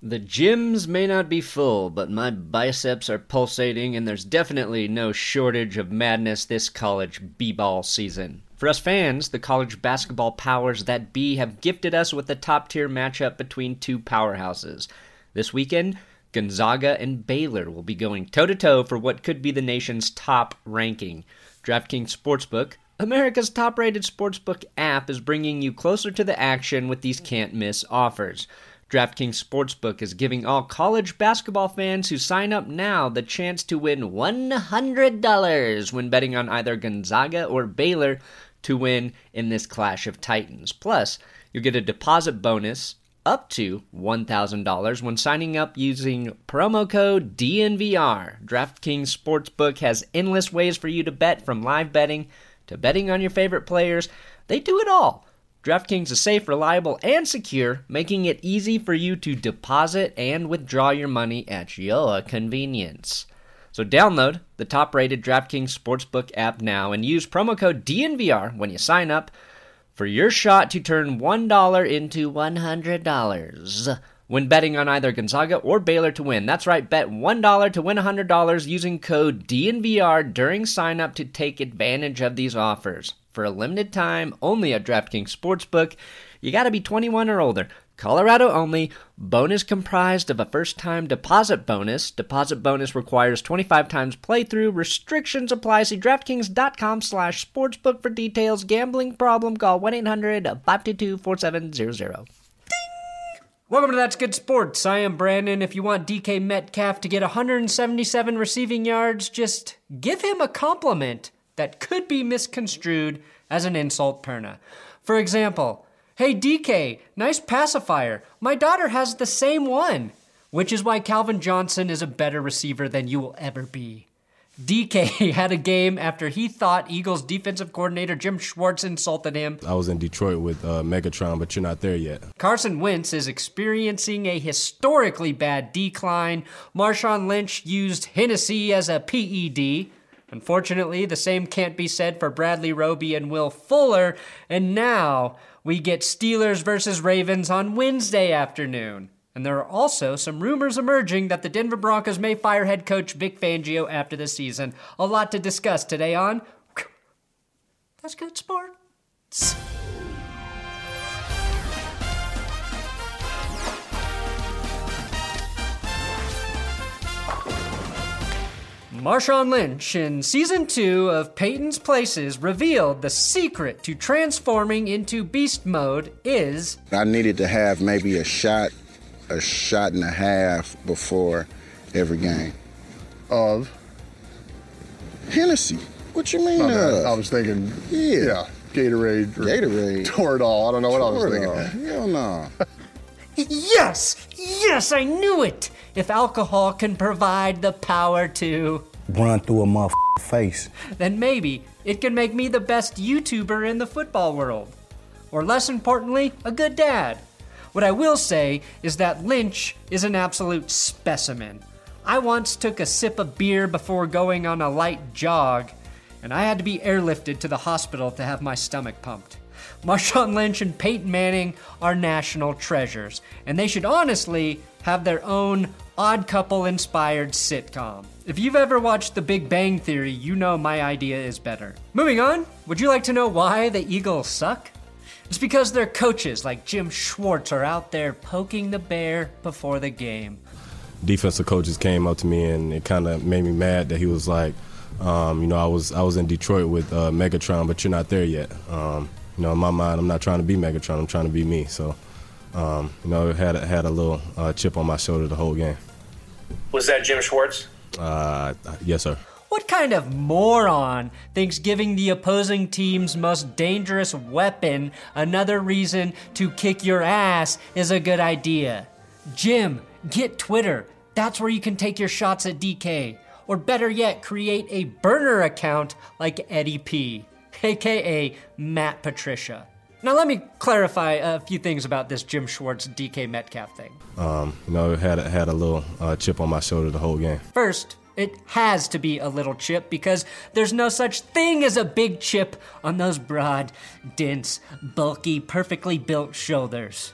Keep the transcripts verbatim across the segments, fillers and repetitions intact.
The gyms may not be full, but my biceps are pulsating, and there's definitely no shortage of madness this college b-ball season. For us fans, the college basketball powers that be have gifted us with a top-tier matchup between two powerhouses. This weekend, Gonzaga and Baylor will be going toe-to-toe for what could be the nation's top ranking. DraftKings Sportsbook, America's top-rated sportsbook app, is bringing you closer to the action with these can't-miss offers. DraftKings Sportsbook is giving all college basketball fans who sign up now the chance to win one hundred dollars when betting on either Gonzaga or Baylor to win in this Clash of Titans. Plus, you'll get a deposit bonus up to one thousand dollars when signing up using promo code D N V R. DraftKings Sportsbook has endless ways for you to bet, from live betting to betting on your favorite players. They do it all. DraftKings is safe, reliable, and secure, making it easy for you to deposit and withdraw your money at your convenience. So download the top-rated DraftKings Sportsbook app now and use promo code D N V R when you sign up for your shot to turn one dollar into one hundred dollars when betting on either Gonzaga or Baylor to win. That's right, bet one dollar to win one hundred dollars using code D N V R during sign-up to take advantage of these offers. For a limited time, only at DraftKings Sportsbook. You gotta be twenty-one or older. Colorado only. Bonus comprised of a first-time deposit bonus. Deposit bonus requires twenty-five times playthrough. Restrictions apply. See DraftKings.com slash sportsbook for details. Gambling problem? Call one eight hundred five two two four seven zero zero. Welcome to That's Good Sports. I am Brandon. If you want D K Metcalf to get one hundred seventy-seven receiving yards, just give him a compliment that could be misconstrued as an insult, Perna. For example, hey D K, nice pacifier. My daughter has the same one. Which is why Calvin Johnson is a better receiver than you will ever be. D K had a game after he thought Eagles defensive coordinator Jim Schwartz insulted him. I was in Detroit with uh, Megatron, but you're not there yet. Carson Wentz is experiencing a historically bad decline. Marshawn Lynch used Hennessy as a P E D. Unfortunately, the same can't be said for Bradley Roby and Will Fuller, and now we get Steelers versus Ravens on Wednesday afternoon. And there are also some rumors emerging that the Denver Broncos may fire head coach Vic Fangio after the season. A lot to discuss today on That's Good Sports. Marshawn Lynch in Season two of Peyton's Places revealed the secret to transforming into beast mode is... I needed to have maybe a shot, a shot and a half before every game. Of? Hennessy. What you mean Okay, of? I was thinking, Yeah. yeah, Gatorade. Or Gatorade. Toradol. I don't know what I was Toradol. thinking. Hell no. Yes! Yes, I knew it! If alcohol can provide the power to... run through a motherfucking face. then maybe it can make me the best YouTuber in the football world. Or less importantly, a good dad. What I will say is that Lynch is an absolute specimen. I once took a sip of beer before going on a light jog, and I had to be airlifted to the hospital to have my stomach pumped. Marshawn Lynch and Peyton Manning are national treasures, and they should honestly have their own Odd Couple-inspired sitcom. If you've ever watched The Big Bang Theory, you know my idea is better. Moving on, would you like to know why the Eagles suck? It's because their coaches like Jim Schwartz are out there poking the bear before the game. Defensive coaches came up to me, and it kind of made me mad that he was like, um, you know, I was I was in Detroit with uh, Megatron, but you're not there yet. Um, you know, in my mind, I'm not trying to be Megatron. I'm trying to be me. So, um, you know, it had, had a little uh, chip on my shoulder the whole game. Was that Jim Schwartz? Uh, yes, sir. What kind of moron thinks giving the opposing team's most dangerous weapon another reason to kick your ass is a good idea? Jim, get Twitter. That's where you can take your shots at D K. Or better yet, create a burner account like Eddie P, aka Matt Patricia. Now let me clarify a few things about this Jim Schwartz D K Metcalf thing. Um, you know, it had, had a little uh, chip on my shoulder the whole game. First, it has to be a little chip because there's no such thing as a big chip on those broad, dense, bulky, perfectly built shoulders.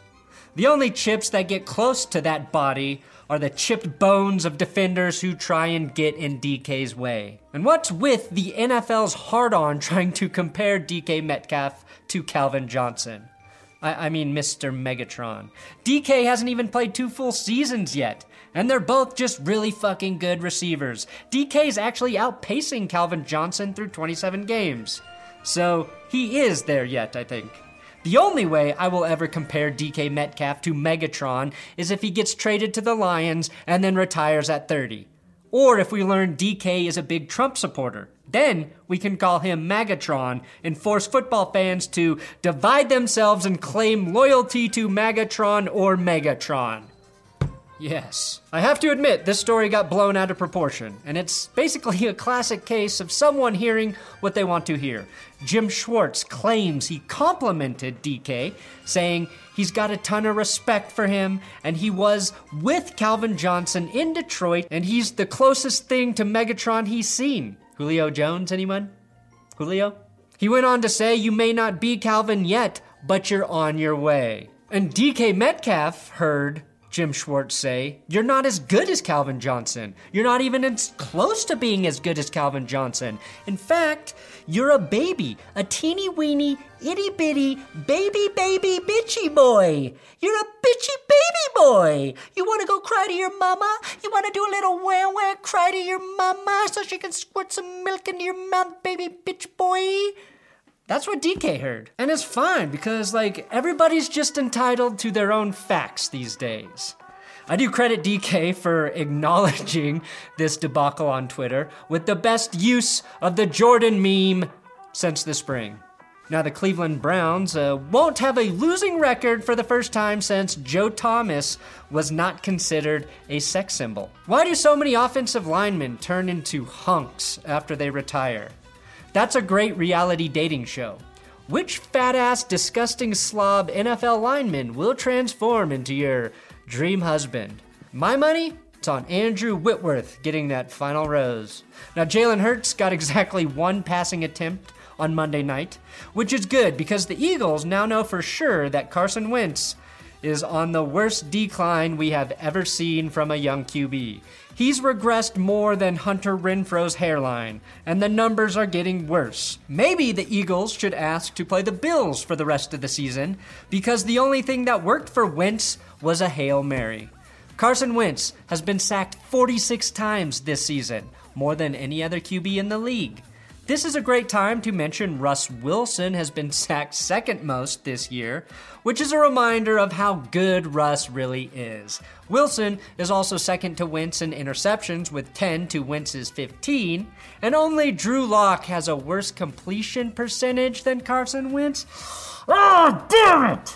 The only chips that get close to that body are the chipped bones of defenders who try and get in D K's way. And what's with the N F L's hard-on trying to compare D K Metcalf to Calvin Johnson? I, I mean, Mister Megatron. D K hasn't even played two full seasons yet, and they're both just really fucking good receivers. D K's actually outpacing Calvin Johnson through twenty-seven games. So he is there yet, I think. The only way I will ever compare D K Metcalf to Megatron is if he gets traded to the Lions and then retires at thirty. Or if we learn D K is a big Trump supporter. Then we can call him Magatron and force football fans to divide themselves and claim loyalty to Magatron or Megatron. Yes. I have to admit, this story got blown out of proportion, and it's basically a classic case of someone hearing what they want to hear. Jim Schwartz claims he complimented D K, saying he's got a ton of respect for him, and he was with Calvin Johnson in Detroit, and he's the closest thing to Megatron he's seen. Julio Jones, anyone? Julio? He went on to say, you may not be Calvin yet, but you're on your way. And D K Metcalf heard Jim Schwartz say, you're not as good as Calvin Johnson. You're not even as close to being as good as Calvin Johnson. In fact, you're a baby, a teeny weeny, itty bitty, baby baby bitchy boy. You're a bitchy baby boy. You want to go cry to your mama? You want to do a little wah wah cry to your mama so she can squirt some milk into your mouth, baby bitch boy? That's what D K heard. And it's fine because, like, everybody's just entitled to their own facts these days. I do credit D K for acknowledging this debacle on Twitter with the best use of the Jordan meme since the spring. Now, the Cleveland Browns uh, won't have a losing record for the first time since Joe Thomas was not considered a sex symbol. Why do so many offensive linemen turn into hunks after they retire? That's a great reality dating show. Which fat-ass, disgusting slob N F L lineman will transform into your dream husband? My money? It's on Andrew Whitworth getting that final rose. Now, Jalen Hurts got exactly one passing attempt on Monday night, which is good because the Eagles now know for sure that Carson Wentz is on the worst decline we have ever seen from a young Q B. He's regressed more than Hunter Renfro's hairline, and the numbers are getting worse. Maybe the Eagles should ask to play the Bills for the rest of the season, because the only thing that worked for Wentz was a Hail Mary. Carson Wentz has been sacked forty-six times this season, more than any other Q B in the league. This is a great time to mention Russ Wilson has been sacked second most this year, which is a reminder of how good Russ really is. Wilson is also second to Wentz in interceptions with ten to Wentz's fifteen, and only Drew Lock has a worse completion percentage than Carson Wentz. Oh, damn it!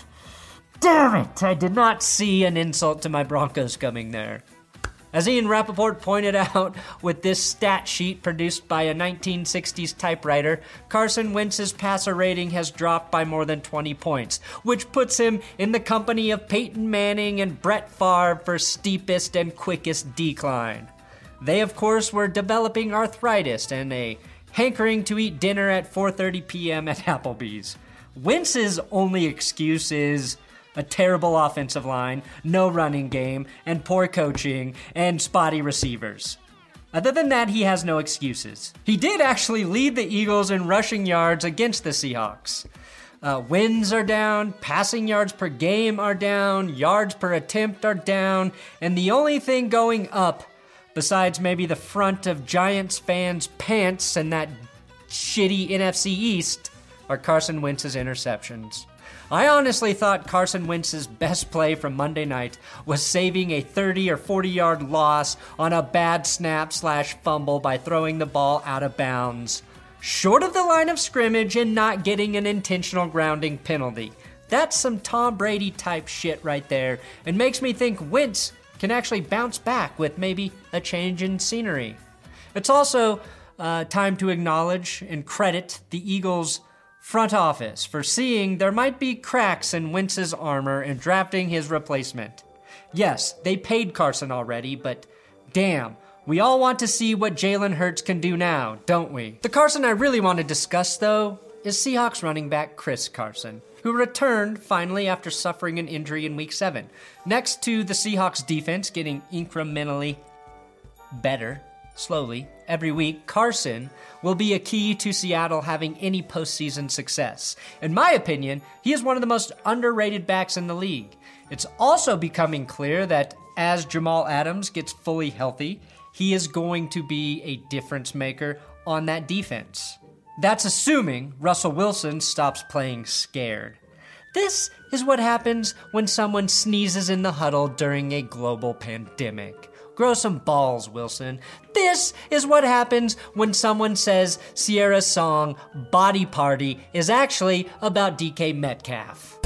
Damn it! I did not see an insult to my Broncos coming there. As Ian Rappaport pointed out with this stat sheet produced by a nineteen sixties typewriter, Carson Wentz's passer rating has dropped by more than twenty points, which puts him in the company of Peyton Manning and Brett Favre for steepest and quickest decline. They, of course, were developing arthritis and a hankering to eat dinner at four thirty p.m. at Applebee's. Wentz's only excuse is a terrible offensive line, no running game, and poor coaching, and spotty receivers. Other than that, he has no excuses. He did actually lead the Eagles in rushing yards against the Seahawks. Uh, wins are down, passing yards per game are down, yards per attempt are down, and the only thing going up, besides maybe the front of Giants fans' pants and that shitty N F C East, are Carson Wentz's interceptions. I honestly thought Carson Wentz's best play from Monday night was saving a thirty or forty yard loss on a bad snap slash fumble by throwing the ball out of bounds, short of the line of scrimmage and not getting an intentional grounding penalty. That's some Tom Brady type shit right there, and makes me think Wentz can actually bounce back with maybe a change in scenery. It's also uh, time to acknowledge and credit the Eagles' front office for seeing there might be cracks in Wentz's armor and drafting his replacement. Yes, they paid Carson already, but damn, we all want to see what Jalen Hurts can do now, don't we? The Carson I really want to discuss, though, is Seahawks running back Chris Carson, who returned finally after suffering an injury in Week seven. Next to the Seahawks defense getting incrementally better, slowly, every week, Carson will be a key to Seattle having any postseason success. In my opinion, he is one of the most underrated backs in the league. It's also becoming clear that as Jamal Adams gets fully healthy, he is going to be a difference maker on that defense. That's assuming Russell Wilson stops playing scared. This is what happens when someone sneezes in the huddle during a global pandemic. Grow some balls, Wilson. This is what happens when someone says Sierra's song Body Party is actually about D K Metcalf.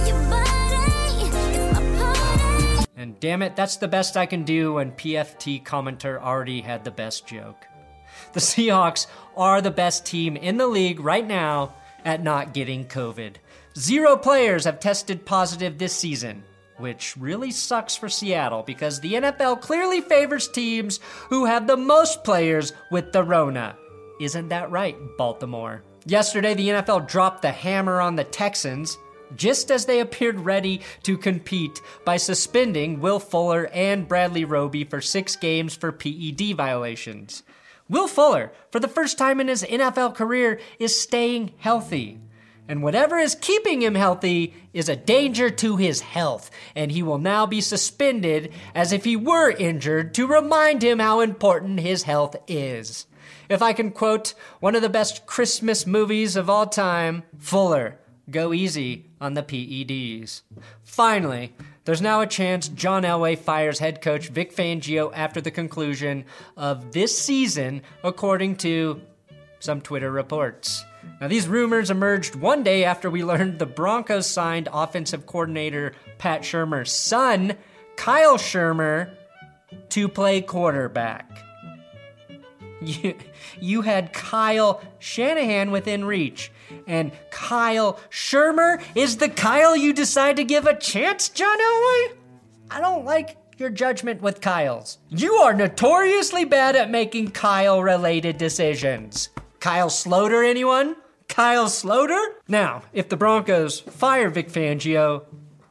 And damn it, that's the best I can do when P F T commenter already had the best joke. The Seahawks are the best team in the league right now at not getting COVID. Zero players have tested positive this season, which really sucks for Seattle because the N F L clearly favors teams who have the most players with the Rona. Isn't that right, Baltimore? Yesterday, the N F L dropped the hammer on the Texans just as they appeared ready to compete by suspending Will Fuller and Bradley Roby for six games for P E D violations. Will Fuller, for the first time in his N F L career, is staying healthy. And whatever is keeping him healthy is a danger to his health, and he will now be suspended as if he were injured to remind him how important his health is. If I can quote one of the best Christmas movies of all time, Fuller, go easy on the P E Ds. Finally, there's now a chance John Elway fires head coach Vic Fangio after the conclusion of this season, according to some Twitter reports. Now, these rumors emerged one day after we learned the Broncos signed offensive coordinator Pat Shurmur's son, Kyle Shurmur, to play quarterback. You, you had Kyle Shanahan within reach, and Kyle Shurmur is the Kyle you decide to give a chance, John Elway? I don't like your judgment with Kyles. You are notoriously bad at making Kyle-related decisions. Kyle Sloter, anyone? Kyle Sloter? Now, if the Broncos fire Vic Fangio,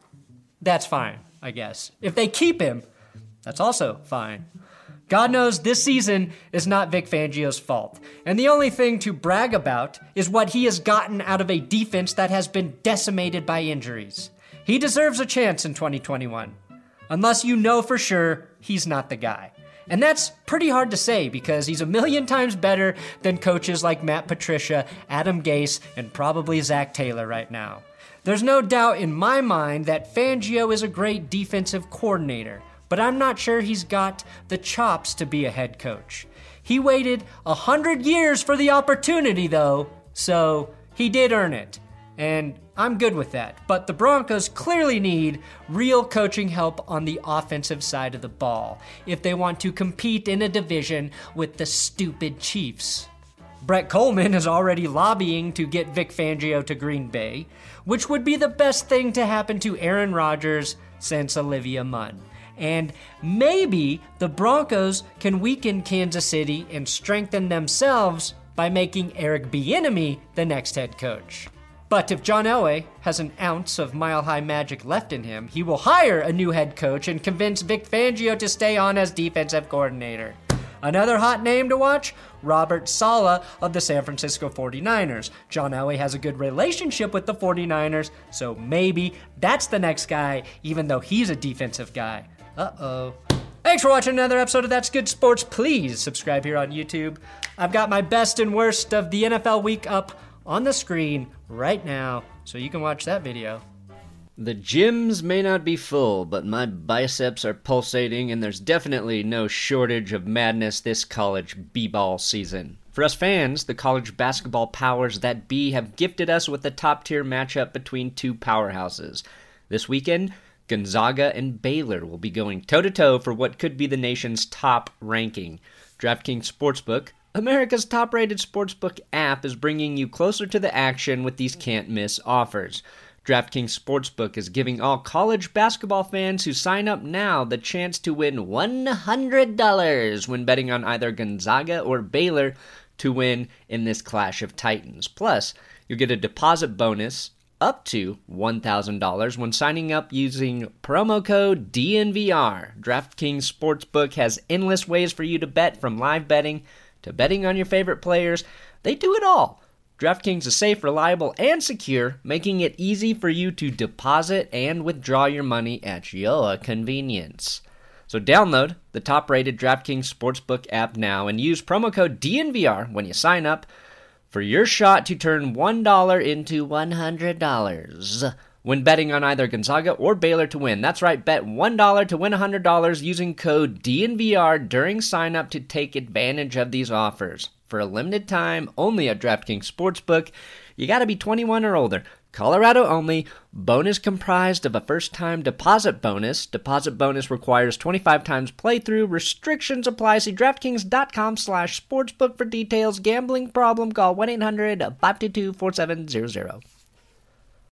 that's fine, I guess. If they keep him, that's also fine. God knows this season is not Vic Fangio's fault, and the only thing to brag about is what he has gotten out of a defense that has been decimated by injuries. He deserves a chance in twenty twenty-one, unless you know for sure he's not the guy. And that's pretty hard to say because he's a million times better than coaches like Matt Patricia, Adam Gase, and probably Zach Taylor right now. There's no doubt in my mind that Fangio is a great defensive coordinator, but I'm not sure he's got the chops to be a head coach. He waited a hundred years for the opportunity, though, so he did earn it. And I'm good with that. But the Broncos clearly need real coaching help on the offensive side of the ball if they want to compete in a division with the stupid Chiefs. Brett Coleman is already lobbying to get Vic Fangio to Green Bay, which would be the best thing to happen to Aaron Rodgers since Olivia Munn. And maybe the Broncos can weaken Kansas City and strengthen themselves by making Eric Bieniemy the next head coach. But if John Elway has an ounce of mile-high magic left in him, he will hire a new head coach and convince Vic Fangio to stay on as defensive coordinator. Another hot name to watch? Robert Saleh of the San Francisco forty-niners. John Elway has a good relationship with the forty-niners, so maybe that's the next guy, even though he's a defensive guy. Uh-oh. Thanks for watching another episode of That's Good Sports. Please subscribe here on YouTube. I've got my best and worst of the N F L week up on the screen right now, so you can watch that video. The gyms may not be full, but my biceps are pulsating, and there's definitely no shortage of madness this college b-ball season. For us fans, the college basketball powers that be have gifted us with a top-tier matchup between two powerhouses. This weekend, Gonzaga and Baylor will be going toe-to-toe for what could be the nation's top ranking. DraftKings Sportsbook, America's top-rated sportsbook app, is bringing you closer to the action with these can't-miss offers. DraftKings Sportsbook is giving all college basketball fans who sign up now the chance to win one hundred dollars when betting on either Gonzaga or Baylor to win in this Clash of Titans. Plus, you'll get a deposit bonus up to one thousand dollars when signing up using promo code D N V R. DraftKings Sportsbook has endless ways for you to bet, from live betting to betting on your favorite players. They do it all. DraftKings is safe, reliable, and secure, making it easy for you to deposit and withdraw your money at your convenience. So download the top-rated DraftKings Sportsbook app now and use promo code D N V R when you sign up for your shot to turn one dollar into one hundred dollars when betting on either Gonzaga or Baylor to win. That's right, bet one dollar to win one hundred dollars using code D N V R during sign-up to take advantage of these offers. For a limited time, only at DraftKings Sportsbook. You got to be twenty-one or older. Colorado only. Bonus comprised of a first-time deposit bonus. Deposit bonus requires twenty-five times playthrough. Restrictions apply. See DraftKings.com slash sportsbook for details. Gambling problem? Call one eight hundred five two two four seven zero zero.